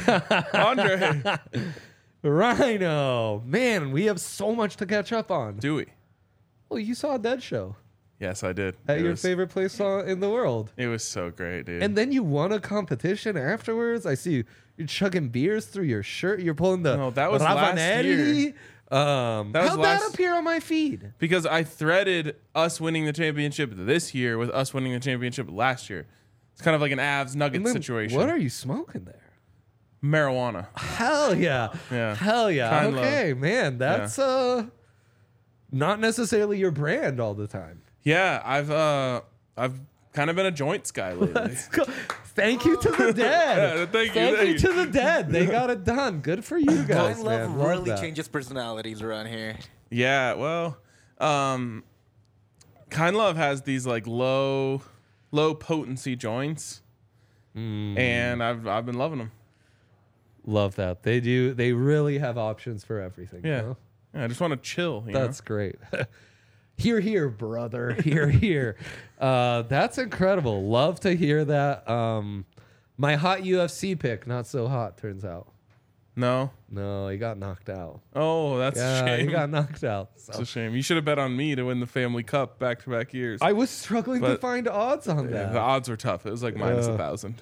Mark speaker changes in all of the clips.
Speaker 1: Andre.
Speaker 2: Rhino. Man, we have so much to catch up on.
Speaker 1: Do we?
Speaker 2: Well, you saw a Dead show
Speaker 1: Yes, I did.
Speaker 2: at your favorite place in the world.
Speaker 1: It was so great, dude.
Speaker 2: And then you won a competition afterwards. I see you're chugging beers through your shirt. You're pulling the
Speaker 1: No, that was last
Speaker 2: Ravanelli.
Speaker 1: year.
Speaker 2: How'd that appear on my feed?
Speaker 1: Because I threaded us winning the championship this year with us winning the championship last year. It's kind of like an Avs Nuggets situation.
Speaker 2: What are you smoking there?
Speaker 1: Marijuana.
Speaker 2: Hell yeah.
Speaker 1: Yeah.
Speaker 2: Hell yeah.
Speaker 1: Kind
Speaker 2: Okay, man. That's not necessarily your brand all the time.
Speaker 1: Yeah, I've kind of been a joints guy lately.
Speaker 2: Let's go. Thank you to the dead.
Speaker 1: Yeah, thank
Speaker 2: you
Speaker 1: you.
Speaker 2: to the dead. They got it done. Good for you guys,
Speaker 3: Kind Love
Speaker 2: man.
Speaker 3: really
Speaker 2: that.
Speaker 3: changes personalities around here.
Speaker 1: Yeah, well, Kind Love has these like low potency joints, and I've been loving them.
Speaker 2: Love that. They do. They really have options for everything.
Speaker 1: Yeah,
Speaker 2: You know?
Speaker 1: yeah I just want to chill.
Speaker 2: That's great. Hear, hear, brother. Hear, hear. That's incredible. Love to hear that. My hot UFC pick, not so hot, turns out.
Speaker 1: No,
Speaker 2: he got knocked out.
Speaker 1: oh, that's a
Speaker 2: Yeah,
Speaker 1: shame.
Speaker 2: he got knocked out.
Speaker 1: It's
Speaker 2: So.
Speaker 1: a shame. You should have bet on me to win the Family Cup back-to-back years.
Speaker 2: I was struggling to
Speaker 1: But-
Speaker 2: find odds on
Speaker 1: Yeah,
Speaker 2: that.
Speaker 1: the odds were tough. It was like minus 1,000.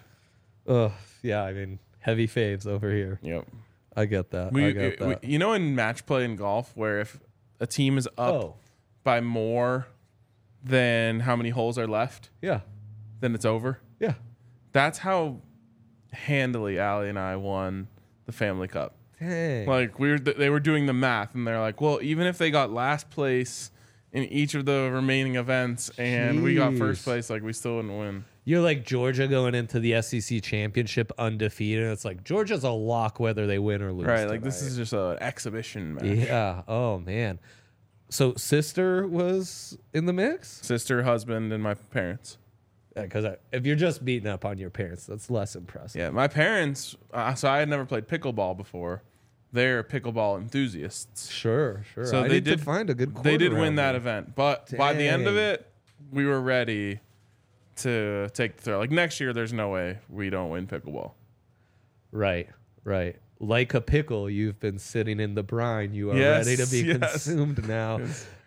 Speaker 2: Yeah, I mean, heavy faves over here.
Speaker 1: Yep.
Speaker 2: I get that. I get that.
Speaker 1: You know, in match play in golf, where if a team is up by more than how many holes are left,
Speaker 2: Yeah.
Speaker 1: then it's over.
Speaker 2: Yeah.
Speaker 1: That's how handily Allie and I won the Family Cup.
Speaker 2: Dang.
Speaker 1: Like they were doing the math, and they're like, well, even if they got last place in each of the remaining events, and we got first
Speaker 2: Jeez.
Speaker 1: place, like we still wouldn't win.
Speaker 2: You're like Georgia going into the SEC championship undefeated. It's like Georgia's a lock whether they win or lose.
Speaker 1: Right? Like this
Speaker 2: tonight.
Speaker 1: is just an exhibition match.
Speaker 2: Yeah. Oh man. So sister was in the mix?
Speaker 1: Sister, husband, and my parents.
Speaker 2: Because if you're just beating up on your parents, that's less impressive.
Speaker 1: Yeah, my parents. So I had never played pickleball before. They're pickleball enthusiasts.
Speaker 2: Sure.
Speaker 1: So
Speaker 2: I
Speaker 1: they
Speaker 2: need
Speaker 1: did
Speaker 2: to find a good.
Speaker 1: They did
Speaker 2: quarter
Speaker 1: win
Speaker 2: round
Speaker 1: that
Speaker 2: there.
Speaker 1: event, but by the end of
Speaker 2: Dang.
Speaker 1: it, we were ready to take the throw. Like next year, there's no way we don't win pickleball.
Speaker 2: Right. Like a pickle, you've been sitting in the brine. You are
Speaker 1: Yes,
Speaker 2: ready to be
Speaker 1: yes.
Speaker 2: consumed now.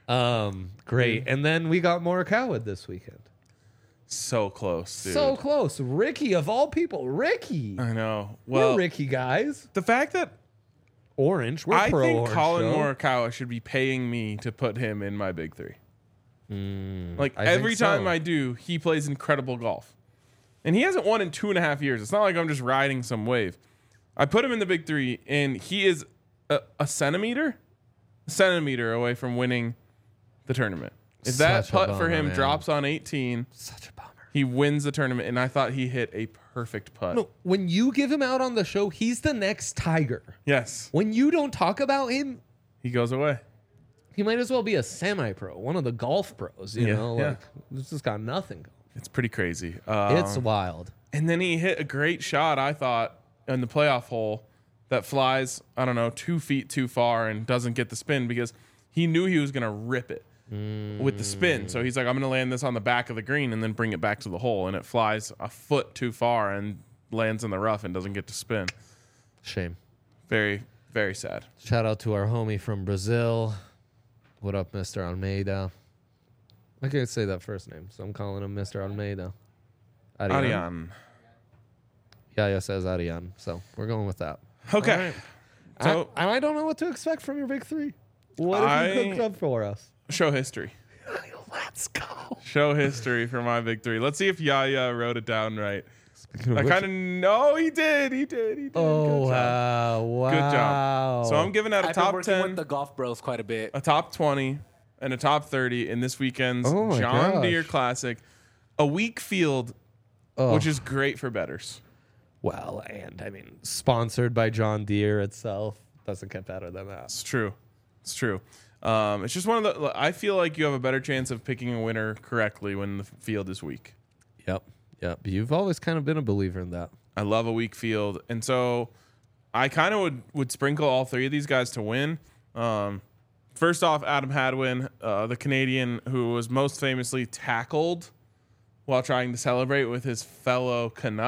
Speaker 2: Great. And then we got Morikawa this weekend.
Speaker 1: So close, dude.
Speaker 2: So close. Ricky, of all people. Ricky.
Speaker 1: I know.
Speaker 2: We're
Speaker 1: Well,
Speaker 2: Ricky guys.
Speaker 1: the fact that
Speaker 2: Orange. We're
Speaker 1: I
Speaker 2: pro
Speaker 1: think
Speaker 2: orange
Speaker 1: Colin
Speaker 2: show.
Speaker 1: Morikawa should be paying me to put him in my big three. Like
Speaker 2: I
Speaker 1: every
Speaker 2: think so.
Speaker 1: time I do, he plays incredible golf. And he hasn't won in 2.5 years. It's not like I'm just riding some wave. I put him in the big three, and he is a centimeter away from winning the tournament. If that
Speaker 2: Such a
Speaker 1: putt for
Speaker 2: bummer,
Speaker 1: him
Speaker 2: man.
Speaker 1: drops on 18,
Speaker 2: Such a bummer.
Speaker 1: he wins the tournament. And I thought he hit a perfect putt.
Speaker 2: No, when you give him out on the show, he's the next Tiger.
Speaker 1: Yes,
Speaker 2: When you don't talk about him,
Speaker 1: he goes away.
Speaker 2: he might as well be a semi-pro, one of the golf pros. You
Speaker 1: Yeah,
Speaker 2: know,
Speaker 1: yeah.
Speaker 2: like this just got nothing going.
Speaker 1: It's pretty crazy.
Speaker 2: It's wild.
Speaker 1: And then he hit a great shot, I thought, in the playoff hole that flies, 2 feet too far and doesn't get the spin because he knew he was going to rip it with the spin. So he's like, I'm going to land this on the back of the green and then bring it back to the hole. And it flies a foot too far and lands in the rough and doesn't get to spin.
Speaker 2: Shame.
Speaker 1: Very, very sad.
Speaker 2: Shout out to our homie from Brazil. What up, Mr. Almeida? I can't say that first name, so I'm calling him Mr. Almeida.
Speaker 1: Ariane.
Speaker 2: Yaya says Ariane, so we're going with that.
Speaker 1: Okay.
Speaker 2: All right.
Speaker 1: So,
Speaker 2: I don't know what to expect from your big three. What have you cooked up for us?
Speaker 1: show history.
Speaker 2: Let's go.
Speaker 1: Show history for my big three. Let's see if Yaya wrote it down right. I
Speaker 2: Which-
Speaker 1: kind of know he did. He did.
Speaker 2: Oh,
Speaker 1: Good job.
Speaker 2: wow.
Speaker 1: Good job. So I'm giving out a
Speaker 3: I've been
Speaker 1: top
Speaker 3: working
Speaker 1: 10,
Speaker 3: with the golf bros quite a bit.
Speaker 1: a top 20, and a top 30 in this weekend's
Speaker 2: Oh my
Speaker 1: John
Speaker 2: gosh.
Speaker 1: Deere Classic. A weak field,
Speaker 2: Oh.
Speaker 1: which is great for bettors.
Speaker 2: Well, and I mean, sponsored by John Deere itself doesn't get better than that.
Speaker 1: It's true. It's true. It's just one of the. I feel like you have a better chance of picking a winner correctly when the field is weak.
Speaker 2: Yep. You've always kind of been a believer in that.
Speaker 1: I love a weak field, and so I kind of would sprinkle all three of these guys to win. First off, Adam Hadwin, the Canadian who was most famously tackled while trying to celebrate with his fellow Canuck.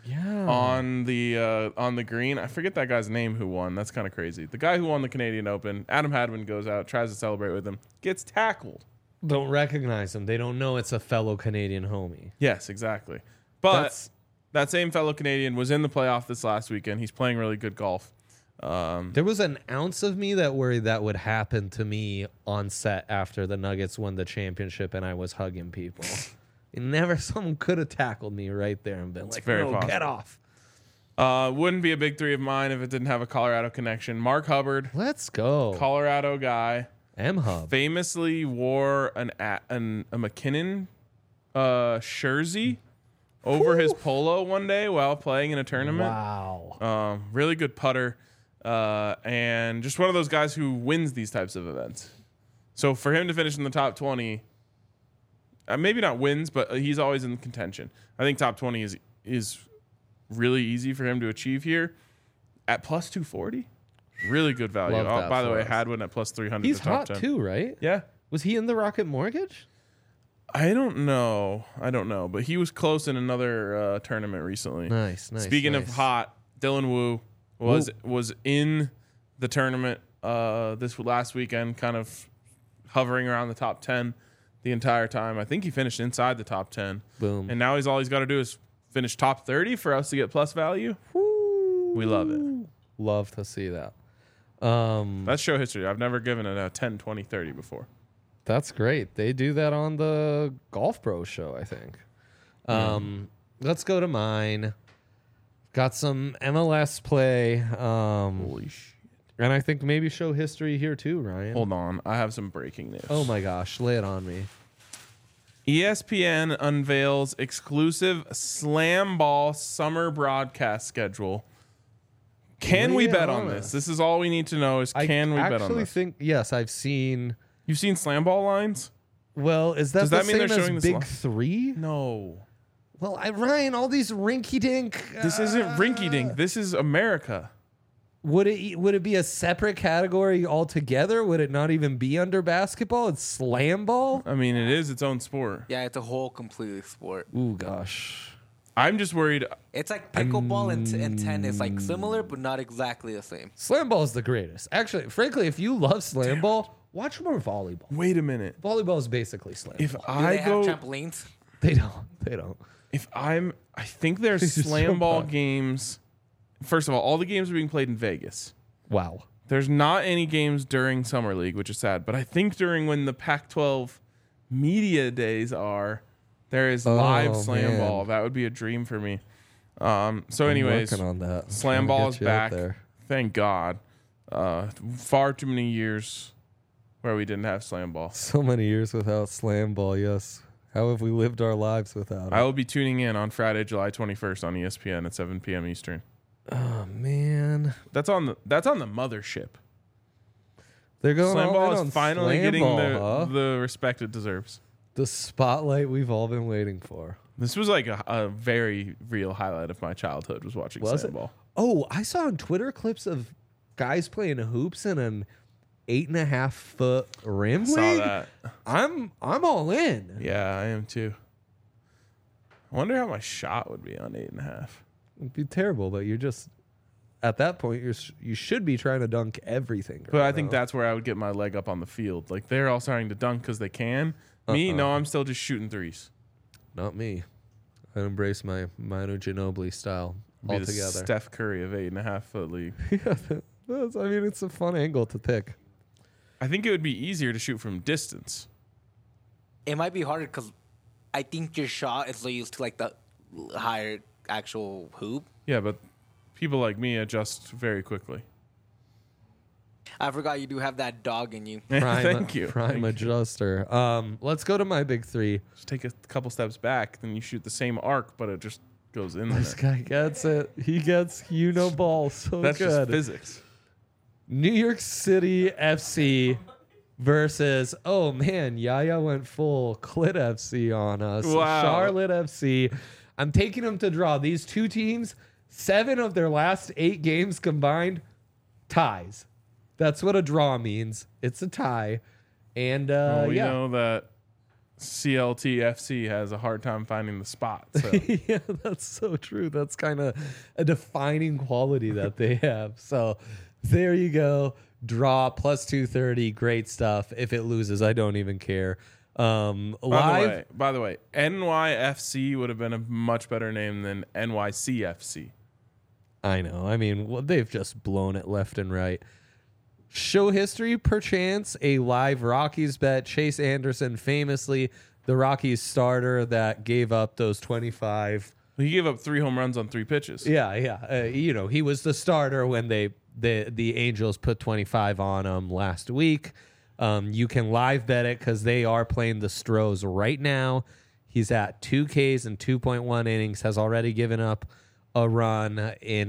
Speaker 1: on the green. I forget that guy's name who won. That's kind of crazy. The guy who won the Canadian Open, Adam Hadwin, goes out, tries to celebrate with him, gets tackled.
Speaker 2: Don't recognize him. They don't know it's a fellow Canadian homie.
Speaker 1: Yes, exactly. But that same fellow Canadian was in the playoff this last weekend. He's playing really good golf.
Speaker 2: There was an ounce of me that worried that would happen to me on set after the Nuggets won the championship and I was hugging people. Someone could have tackled me right there and been like,
Speaker 1: very
Speaker 2: no,
Speaker 1: possible.
Speaker 2: get off.
Speaker 1: Wouldn't be a big three of mine if it didn't have a Colorado connection. Mark Hubbard,
Speaker 2: Let's go.
Speaker 1: Colorado guy,
Speaker 2: M-Hub.
Speaker 1: famously wore a McKinnon jersey over his polo one day while playing in a tournament.
Speaker 2: Wow.
Speaker 1: Really good putter, and just one of those guys who wins these types of events. So for him to finish in the top 20, maybe not wins, but he's always in contention. I think top 20 is really easy for him to achieve here at plus 240. Really good value.
Speaker 2: Love that
Speaker 1: By the
Speaker 2: for
Speaker 1: way,
Speaker 2: us.
Speaker 1: Hadwin at plus 300.
Speaker 2: He's
Speaker 1: to top
Speaker 2: hot
Speaker 1: 10.
Speaker 2: too, right?
Speaker 1: Yeah.
Speaker 2: Was he in the Rocket Mortgage?
Speaker 1: I don't know, but he was close in another tournament recently.
Speaker 2: Nice.
Speaker 1: Speaking of hot, Dylan Wu was in the tournament this last weekend, kind of hovering around the top 10 the entire time. I think he finished inside the top 10.
Speaker 2: Boom.
Speaker 1: And now all he's got to do is finish top 30 for us to get plus value. We love it.
Speaker 2: Love to see that.
Speaker 1: That's show history. I've never given it a 10, 20, 30 before.
Speaker 2: That's great. They do that on the Golf Pro show, I think. Let's go to mine. Got some MLS play.
Speaker 1: Holy shit.
Speaker 2: And I think maybe show history here too, Ryan.
Speaker 1: Hold on. I have some breaking news.
Speaker 2: Oh my gosh, lay it on me.
Speaker 1: ESPN unveils exclusive Slam Ball summer broadcast schedule. Can we bet on this? This is all we need to know is can we bet on
Speaker 2: I actually
Speaker 1: this?
Speaker 2: think, yes, I've seen.
Speaker 1: You've seen Slam Ball lines?
Speaker 2: Well, is that
Speaker 1: Does
Speaker 2: the
Speaker 1: that mean
Speaker 2: same
Speaker 1: they're
Speaker 2: as
Speaker 1: showing this
Speaker 2: Big
Speaker 1: li-
Speaker 2: Three?
Speaker 1: No.
Speaker 2: Well, Ryan, all these rinky-dink.
Speaker 1: This isn't rinky dink. This is America.
Speaker 2: Would it be a separate category altogether? Would it not even be under basketball? It's Slam Ball?
Speaker 1: I mean, it is its own sport.
Speaker 3: Yeah, it's a whole completely sport.
Speaker 2: Ooh, gosh.
Speaker 1: I'm just worried.
Speaker 3: It's like pickleball and tennis, like similar but not exactly the same.
Speaker 2: Slam Ball is the greatest. Actually, frankly, if you love Slam Ball, watch more volleyball.
Speaker 1: Wait a minute.
Speaker 2: Volleyball is basically Slam
Speaker 1: If
Speaker 2: Ball.
Speaker 3: Do
Speaker 1: I
Speaker 3: they
Speaker 1: go,
Speaker 3: have trampolines?
Speaker 2: They don't.
Speaker 1: I think there's
Speaker 2: Just
Speaker 1: Slam
Speaker 2: jump
Speaker 1: Ball
Speaker 2: on.
Speaker 1: games. First of all the games are being played in Vegas.
Speaker 2: Wow.
Speaker 1: There's not any games during Summer League, which is sad. But I think during when the Pac-12 media days are, there is live Slam
Speaker 2: man.
Speaker 1: Ball. That would be a dream for me. So anyways,
Speaker 2: I'm working on that. I'm
Speaker 1: Slam
Speaker 2: trying to
Speaker 1: Ball
Speaker 2: get
Speaker 1: is
Speaker 2: you out
Speaker 1: back.
Speaker 2: there.
Speaker 1: Thank God. Far too many years where we didn't have Slam Ball.
Speaker 2: So many years without Slam Ball, yes. How have we lived our lives without
Speaker 1: I
Speaker 2: it?
Speaker 1: will be tuning in on Friday, July 21st on ESPN at 7 p.m. Eastern.
Speaker 2: Oh, man.
Speaker 1: That's on the mothership.
Speaker 2: They're going
Speaker 1: Slam
Speaker 2: all
Speaker 1: Ball
Speaker 2: in
Speaker 1: is
Speaker 2: on
Speaker 1: finally
Speaker 2: Slam
Speaker 1: getting
Speaker 2: Ball,
Speaker 1: the respect it deserves.
Speaker 2: the spotlight we've all been waiting for.
Speaker 1: This was like a very real highlight of my childhood was watching
Speaker 2: Was
Speaker 1: Slam
Speaker 2: it?
Speaker 1: Ball.
Speaker 2: Oh, I saw on Twitter clips of guys playing hoops in an 8.5 foot rim
Speaker 1: Saw
Speaker 2: rig.
Speaker 1: that.
Speaker 2: I'm all in.
Speaker 1: Yeah, I am too. I wonder how my shot would be on 8.5.
Speaker 2: It'd be terrible, but you're just at that point you should be trying to dunk everything.
Speaker 1: But
Speaker 2: right
Speaker 1: I think
Speaker 2: now.
Speaker 1: that's where I would get my leg up on the field. Like they're all starting to dunk because they can. Me, no, I'm still just shooting threes.
Speaker 2: not me. I embrace my Manu Ginobili style
Speaker 1: Be the
Speaker 2: altogether.
Speaker 1: Steph Curry of 8.5 foot league.
Speaker 2: I mean, it's a fun angle to pick.
Speaker 1: I think it would be easier to shoot from distance.
Speaker 3: It might be harder because I think your shot is so used to like the higher actual hoop.
Speaker 1: Yeah, but people like me adjust very quickly.
Speaker 3: I forgot you do have that dog in you.
Speaker 1: Thank you.
Speaker 2: Prime
Speaker 1: Thank you.
Speaker 2: adjuster. Let's go to my big three.
Speaker 1: Just take a couple steps back, then you shoot the same arc, but it just goes in
Speaker 2: This
Speaker 1: there.
Speaker 2: guy gets it. He gets ball so
Speaker 1: That's just
Speaker 2: good.
Speaker 1: physics.
Speaker 2: New York City FC versus, oh man, Yaya went full Clit FC on us.
Speaker 1: Wow.
Speaker 2: Charlotte FC. I'm taking them to draw. These two teams, 7 of their last 8 games combined, ties. That's what a draw means. It's a tie. And
Speaker 1: We
Speaker 2: yeah.
Speaker 1: know that CLTFC has a hard time finding the spot. So.
Speaker 2: Yeah, that's so true. That's kind of a defining quality that they have. So there you go. Draw plus 230. Great stuff. If it loses, I don't even care. Live.
Speaker 1: By the way, NYFC would have been a much better name than NYCFC.
Speaker 2: I know. I mean, well, they've just blown it left and right. Show history, perchance, a live Rockies bet. Chase Anderson, famously the Rockies starter that gave up those 25.
Speaker 1: He gave up 3 home runs on 3 pitches.
Speaker 2: Yeah. He was the starter when the Angels put 25 on him last week. You can live bet it because they are playing the Stros right now. He's at 2 Ks and 2.1 innings, has already given up a run in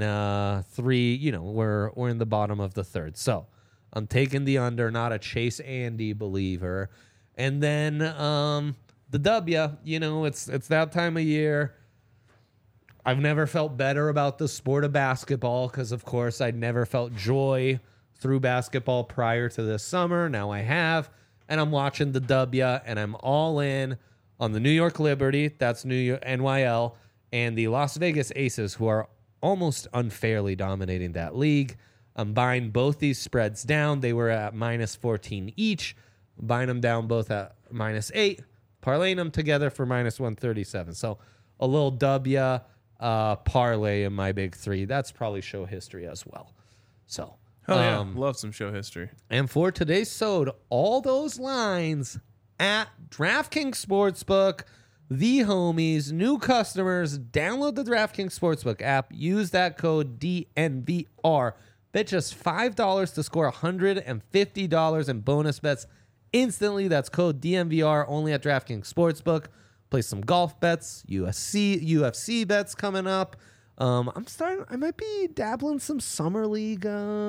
Speaker 2: 3. We're in the bottom of the third. So I'm taking the under, not a Chase Andy believer. And then the W, it's that time of year. I've never felt better about the sport of basketball because, of course, I'd never felt joy through basketball prior to this summer. Now I have, and I'm watching the W, and I'm all in on the New York Liberty, that's New York NYL, and the Las Vegas Aces, who are almost unfairly dominating that league. I'm buying both these spreads down. They were at minus 14 each. I'm buying them down both at minus 8, parlaying them together for minus 137. So a little W parlay in my big 3. That's probably show history as well. So,
Speaker 1: Hell yeah, love some show history.
Speaker 2: And for today's sode, all those lines at DraftKings Sportsbook, the homies, new customers, download the DraftKings Sportsbook app, use that code DNVR. Bet just $5 to score $150 in bonus bets instantly. That's code DNVR only at DraftKings Sportsbook. Play some golf bets, UFC bets coming up. I might be dabbling some summer league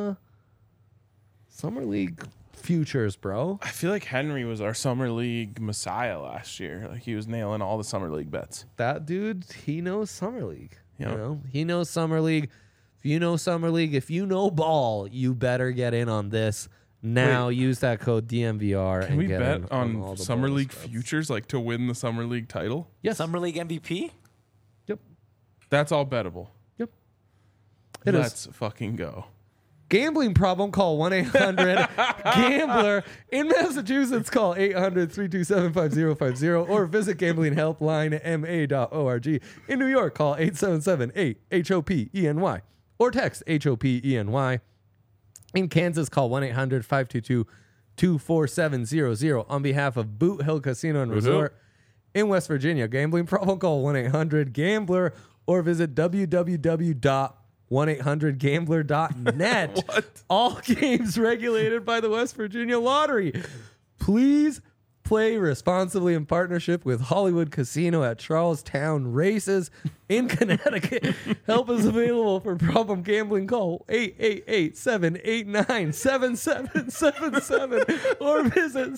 Speaker 2: futures, bro.
Speaker 1: I feel like Henry was our summer league messiah last year. Like he was nailing all the summer league bets.
Speaker 2: That dude, he knows summer league.
Speaker 1: Yep.
Speaker 2: He knows summer league. If you know summer league, if you know ball, you better get in on this now.
Speaker 1: Wait,
Speaker 2: use that code DNVR.
Speaker 1: Can
Speaker 2: and
Speaker 1: we
Speaker 2: get
Speaker 1: bet
Speaker 2: in
Speaker 1: on
Speaker 2: all the
Speaker 1: summer
Speaker 2: bonus
Speaker 1: league
Speaker 2: bets.
Speaker 1: futures, like to win the summer league title?
Speaker 2: Yes.
Speaker 3: Summer League MVP?
Speaker 2: Yep.
Speaker 1: That's all bettable.
Speaker 2: Yep. It is.
Speaker 1: Let's fucking go.
Speaker 2: Gambling problem, call 1-800-GAMBLER. In Massachusetts, call 800-327-5050 or visit gamblinghelplinema.org. In New York, call 877-8-HOPENY or text HOPENY. In Kansas, call 1-800-522-24700 on behalf of Boot Hill Casino and Resort. In West Virginia, gambling problem, call 1-800-GAMBLER or visit www.1800gambler.net. All games regulated by the West Virginia Lottery. Please play responsibly in partnership with Hollywood Casino at Charlestown Races in Connecticut. Help is available for problem gambling. Call 888-789-7777 or visit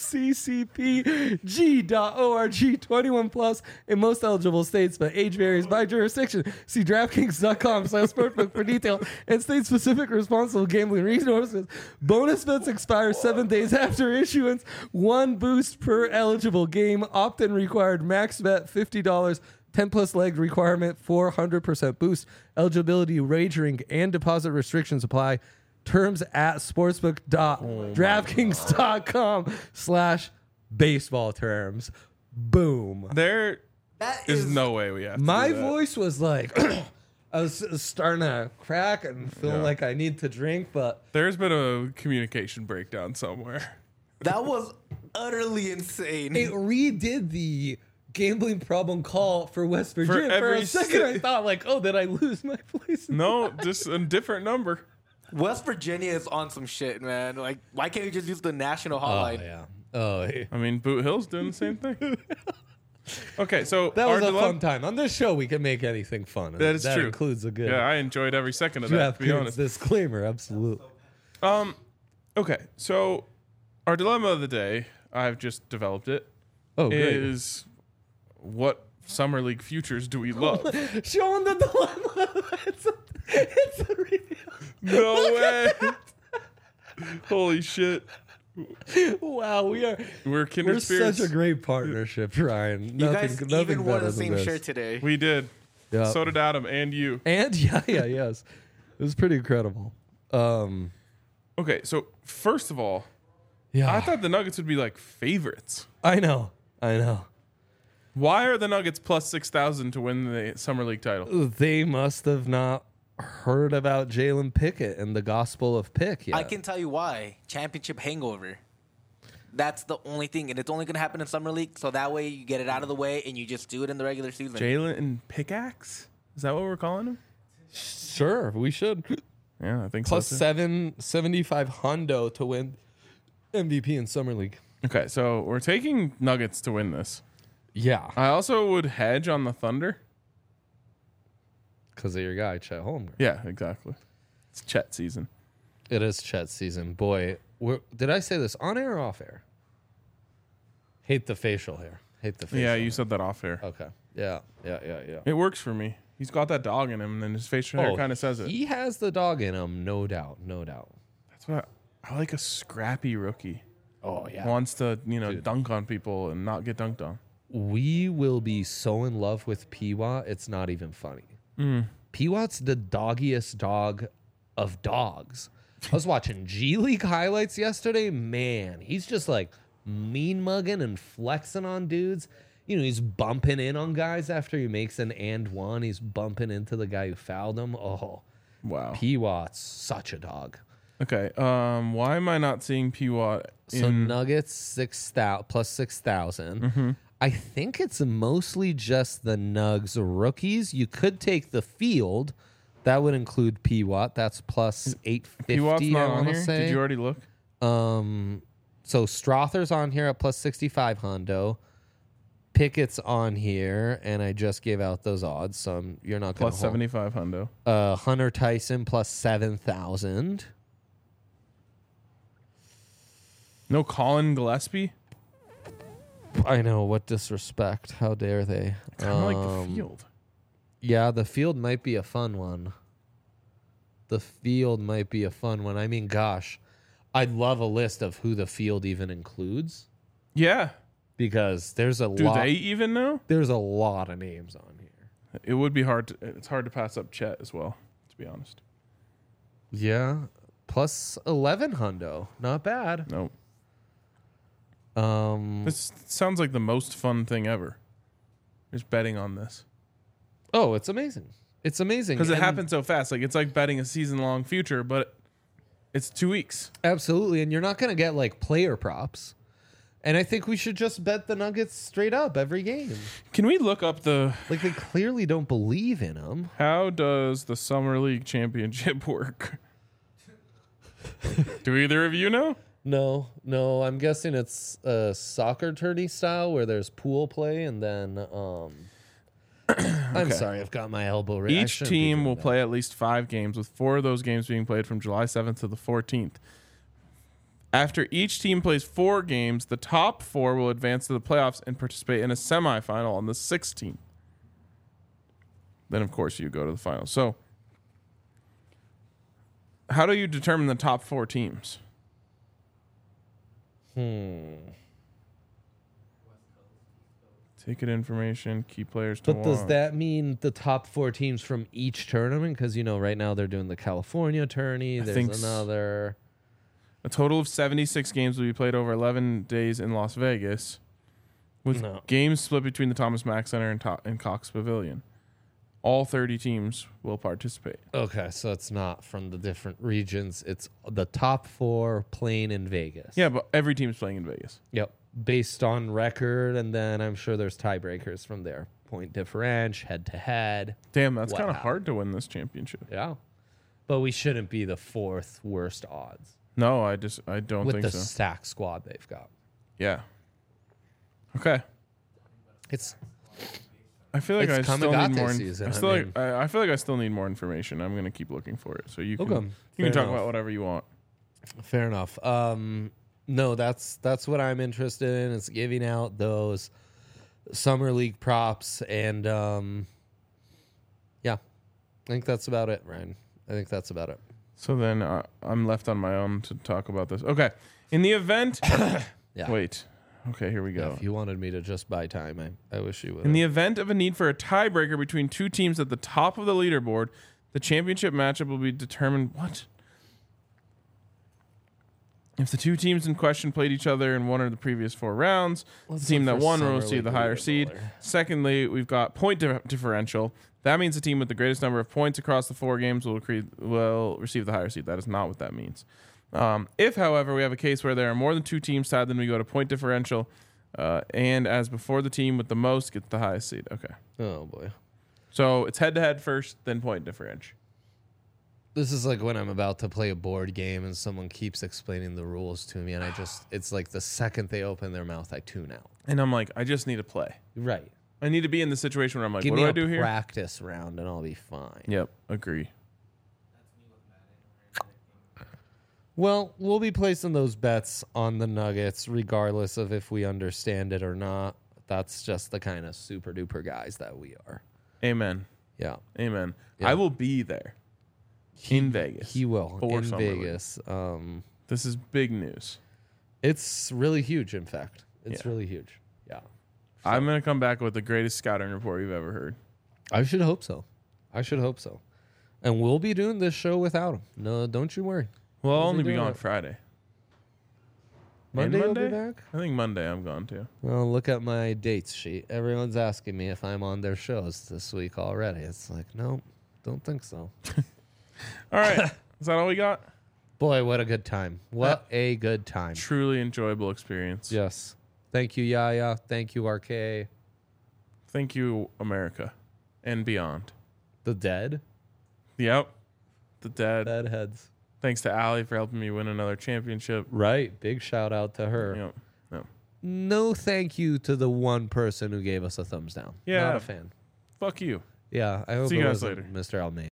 Speaker 2: ccpg.org. 21 plus in most eligible states, but age varies by jurisdiction. See DraftKings.com/sportsbook for detail and state-specific responsible gambling resources. Bonus bets expire 7 days after issuance. 1 boost per eligible game. Opt-in required. Max bet $50. 10 plus leg requirement. 400% boost. Eligibility, wagering, and deposit restrictions apply. Terms at sportsbook.draftkings.com/baseball terms. Boom.
Speaker 1: There
Speaker 3: That
Speaker 1: is no way we have to
Speaker 2: My
Speaker 1: do that.
Speaker 2: voice was like, I was starting to crack and feel like I need to drink, but
Speaker 1: There's been a communication breakdown somewhere.
Speaker 3: That was utterly insane.
Speaker 2: it redid the gambling problem call for West Virginia. For
Speaker 1: every
Speaker 2: a second, I thought like, oh, did I lose my place?
Speaker 1: No, just a different number.
Speaker 3: West Virginia is on some shit, man. Like, why can't you just use the national hotline?
Speaker 2: yeah. Oh, yeah.
Speaker 1: I mean, Boot Hill's doing the same thing. Okay, so
Speaker 2: That was
Speaker 1: our
Speaker 2: a
Speaker 1: dilemma-
Speaker 2: fun time. On this show, we can make anything fun.
Speaker 1: That is true.
Speaker 2: includes a good
Speaker 1: Yeah, I enjoyed every second of that, to be
Speaker 2: DraftKings
Speaker 1: honest.
Speaker 2: disclaimer. Absolutely.
Speaker 1: Okay, so our dilemma of the day, I've just developed it,
Speaker 2: Oh, great.
Speaker 1: is what summer league futures do we love?
Speaker 2: Showing the dilemma. it's a reveal.
Speaker 1: No way. Holy shit.
Speaker 2: Wow,
Speaker 1: We're kindred
Speaker 2: we're
Speaker 1: spirits.
Speaker 2: such a great partnership, Ryan.
Speaker 3: You
Speaker 2: Nothing,
Speaker 3: guys
Speaker 2: nothing
Speaker 3: even wore
Speaker 2: better
Speaker 3: the
Speaker 2: than
Speaker 3: same
Speaker 2: this.
Speaker 3: shirt today.
Speaker 1: We did.
Speaker 2: Yeah.
Speaker 1: So did Adam and you.
Speaker 2: And yes, it was pretty incredible.
Speaker 1: Okay, so first of all,
Speaker 2: Yeah,
Speaker 1: I thought the Nuggets would be like favorites.
Speaker 2: I know.
Speaker 1: Why are the Nuggets plus 6,000 to win the Summer League title?
Speaker 2: They must have not heard about Jalen Pickett and the gospel of pick yet.
Speaker 3: I can tell you why. Championship hangover. That's the only thing, and it's only going to happen in Summer League, so that way you get it out of the way and you just do it in the regular season.
Speaker 1: Jalen and Pickaxe? Is that what we're calling him?
Speaker 2: Sure, we should.
Speaker 1: Yeah, I think
Speaker 2: Plus
Speaker 1: so. too.
Speaker 2: 775 hundo to win MVP in Summer League.
Speaker 1: Okay, so we're taking Nuggets to win this.
Speaker 2: Yeah,
Speaker 1: I also would hedge on the Thunder.
Speaker 2: because of your guy, Chet Holmgren.
Speaker 1: Yeah, exactly. It's Chet season.
Speaker 2: It is Chet's season. Boy, did I say this on air or off air? Hate the facial hair. Hate the facial
Speaker 1: Yeah,
Speaker 2: hair.
Speaker 1: you said that off air.
Speaker 2: Okay. Yeah.
Speaker 1: It works for me. He's got that dog in him, and his facial hair kind of says it.
Speaker 2: He has the dog in him, no doubt.
Speaker 1: That's what I like. A scrappy rookie
Speaker 2: Oh, yeah.
Speaker 1: wants to, dunk on people and not get dunked on.
Speaker 2: We will be so in love with Peewat, it's not even funny. Peewat's the doggiest dog of dogs. I was watching G League highlights yesterday. Man, he's just like mean mugging and flexing on dudes. He's bumping in on guys after he makes an and one. He's bumping into the guy who fouled him. Oh,
Speaker 1: Wow.
Speaker 2: Peewat's such a dog.
Speaker 1: Okay. Why am I not seeing Peewat
Speaker 2: So
Speaker 1: in?
Speaker 2: Nuggets 6,000 plus 6,000. I think it's mostly just the Nugs rookies. You could take the field. That would include Peewat. That's plus 850.
Speaker 1: Peewat's not
Speaker 2: I
Speaker 1: on
Speaker 2: wanna
Speaker 1: here.
Speaker 2: say.
Speaker 1: Did you already look?
Speaker 2: So Strother's on here at plus 65 hundo. Pickett's on here, and I just gave out those odds, so you're not going to
Speaker 1: Plus 75 hundo.
Speaker 2: Hunter Tyson plus 7,000.
Speaker 1: No Colin Gillespie.
Speaker 2: I know, what disrespect. How dare they?
Speaker 1: Kind of like the field.
Speaker 2: Yeah, the field might be a fun one. I mean, gosh, I'd love a list of who the field even includes
Speaker 1: Yeah.
Speaker 2: because there's a
Speaker 1: Do
Speaker 2: lot.
Speaker 1: they even know?
Speaker 2: There's a lot of names on here.
Speaker 1: It would be hard. It's hard to pass up Chet as well, to be honest.
Speaker 2: Yeah, plus 11 hundo, not bad.
Speaker 1: No.
Speaker 2: Um,
Speaker 1: This sounds like the most fun thing ever. Just betting on this.
Speaker 2: oh, it's amazing. It's amazing
Speaker 1: Because it
Speaker 2: And-
Speaker 1: happens so fast. Like, it's like betting a season-long future, but it's 2 weeks.
Speaker 2: Absolutely, and you're not going to get like player props. And I think we should just bet the Nuggets straight up every game.
Speaker 1: Can we look up
Speaker 2: Like they clearly don't believe in them.
Speaker 1: how does the Summer League Championship work? Do either of you know?
Speaker 2: No, I'm guessing it's a soccer tourney style where there's pool play and then I'm sorry, I've got my elbow right. I
Speaker 1: Each
Speaker 2: shouldn't be
Speaker 1: team
Speaker 2: doing
Speaker 1: will
Speaker 2: that.
Speaker 1: play at least 5 games, with 4 of those games being played from July 7th to the 14th. After each team plays 4 games, the top 4 will advance to the playoffs and participate in a semifinal on the 16th. Then, of course, you go to the final. So, how do you determine the top 4 teams? Ticket information, key players to
Speaker 2: But does
Speaker 1: watch.
Speaker 2: that mean the top 4 teams from each tournament? Because right now they're doing the California tourney.
Speaker 1: think
Speaker 2: There's
Speaker 1: s-
Speaker 2: another.
Speaker 1: A total of 76 games will be played over 11 days in Las Vegas, with
Speaker 2: No.
Speaker 1: games split between the Thomas Mack Center and Cox Pavilion. All 30 teams will participate.
Speaker 2: Okay, so it's not from the different regions. It's the top 4 playing in Vegas.
Speaker 1: Yeah, but every team's playing in Vegas.
Speaker 2: Yep. Based on record, and then I'm sure there's tiebreakers from there. Point differential, head to head.
Speaker 1: Damn, that's kind of
Speaker 2: Wow.
Speaker 1: hard to win this championship.
Speaker 2: Yeah. But we shouldn't be the 4th worst odds
Speaker 1: No, I don't
Speaker 2: with
Speaker 1: think
Speaker 2: the
Speaker 1: so.
Speaker 2: stack squad they've got.
Speaker 1: Yeah. Okay.
Speaker 2: It's
Speaker 1: I feel like
Speaker 2: It's
Speaker 1: I still need
Speaker 2: Kamigate
Speaker 1: more.
Speaker 2: season,
Speaker 1: I,
Speaker 2: I
Speaker 1: still
Speaker 2: mean.
Speaker 1: I feel like I still need more information. I'm gonna keep looking for it, so you can
Speaker 2: Okay,
Speaker 1: you
Speaker 2: fair
Speaker 1: can talk
Speaker 2: enough.
Speaker 1: about whatever you want.
Speaker 2: fair enough. No, that's what I'm interested in. Is giving out those summer league props, and yeah, I think that's about it, Ryan. I think that's about it.
Speaker 1: So then I'm left on my own to talk about this. Okay. In the event,
Speaker 2: Yeah.
Speaker 1: wait. Okay, here we
Speaker 2: Yeah,
Speaker 1: go.
Speaker 2: if you wanted me to just buy time, I wish you would.
Speaker 1: In the event of a need for a tiebreaker between two teams at the top of the leaderboard, the championship matchup will be determined. What? If the two teams in question played each other in one of the previous 4 rounds, the team that won will receive the higher seed. Secondly, we've got point differential. That means the team with the greatest number of points across the 4 games will receive the higher seed. That is not what that means. If, however, we have a case where there are more than 2 teams tied, then we go to point differential. And as before, the team with the most gets the highest seed. Okay.
Speaker 2: Oh boy.
Speaker 1: So it's head-to-head first, then point differential.
Speaker 2: This is like when I'm about to play a board game and someone keeps explaining the rules to me, and it's like the second they open their mouth, I tune out.
Speaker 1: And I'm like, I just need to play.
Speaker 2: Right.
Speaker 1: I need to be in the situation where I'm like,
Speaker 2: Give
Speaker 1: what
Speaker 2: me
Speaker 1: do
Speaker 2: a
Speaker 1: I do here?
Speaker 2: practice round and I'll be fine.
Speaker 1: Yep, agree.
Speaker 2: Well, we'll be placing those bets on the Nuggets regardless of if we understand it or not. That's just the kind of super duper guys that we are.
Speaker 1: Amen.
Speaker 2: Yeah.
Speaker 1: Amen.
Speaker 2: Yeah.
Speaker 1: I will be there in Vegas.
Speaker 2: He will
Speaker 1: for
Speaker 2: in
Speaker 1: Summer League.
Speaker 2: Vegas.
Speaker 1: This is big news.
Speaker 2: It's really huge, in fact. It's
Speaker 1: Yeah.
Speaker 2: really huge. Yeah.
Speaker 1: I'm going to come back with the greatest scouting report you've ever heard.
Speaker 2: I should hope so. And we'll be doing this show without him. No, don't you worry.
Speaker 1: Well, I'll
Speaker 2: We'll
Speaker 1: only
Speaker 2: be
Speaker 1: be
Speaker 2: doing
Speaker 1: gone
Speaker 2: it.
Speaker 1: Friday.
Speaker 2: Monday
Speaker 1: And
Speaker 2: you'll be
Speaker 1: Monday?
Speaker 2: back?
Speaker 1: I think Monday I'm gone too.
Speaker 2: Well, look at my dates sheet. Everyone's asking me if I'm on their shows this week already. It's like, no, don't think so.
Speaker 1: All right. Is that all we got?
Speaker 2: Boy, what a good time. What a good time.
Speaker 1: Truly enjoyable experience.
Speaker 2: Yes. Thank you, Yaya. Thank you, RK.
Speaker 1: Thank you, America and beyond.
Speaker 2: The dead?
Speaker 1: Yep. The dead.
Speaker 2: Deadheads.
Speaker 1: Thanks to Allie for helping me win another championship.
Speaker 2: Right. Big shout out to her.
Speaker 1: Yep. Yep.
Speaker 2: No thank you to the one person who gave us a thumbs down.
Speaker 1: Yeah.
Speaker 2: Not a fan.
Speaker 1: Fuck you.
Speaker 2: Yeah. I hope
Speaker 1: See you
Speaker 2: it
Speaker 1: guys
Speaker 2: wasn't
Speaker 1: later.
Speaker 2: Mr. Almeida.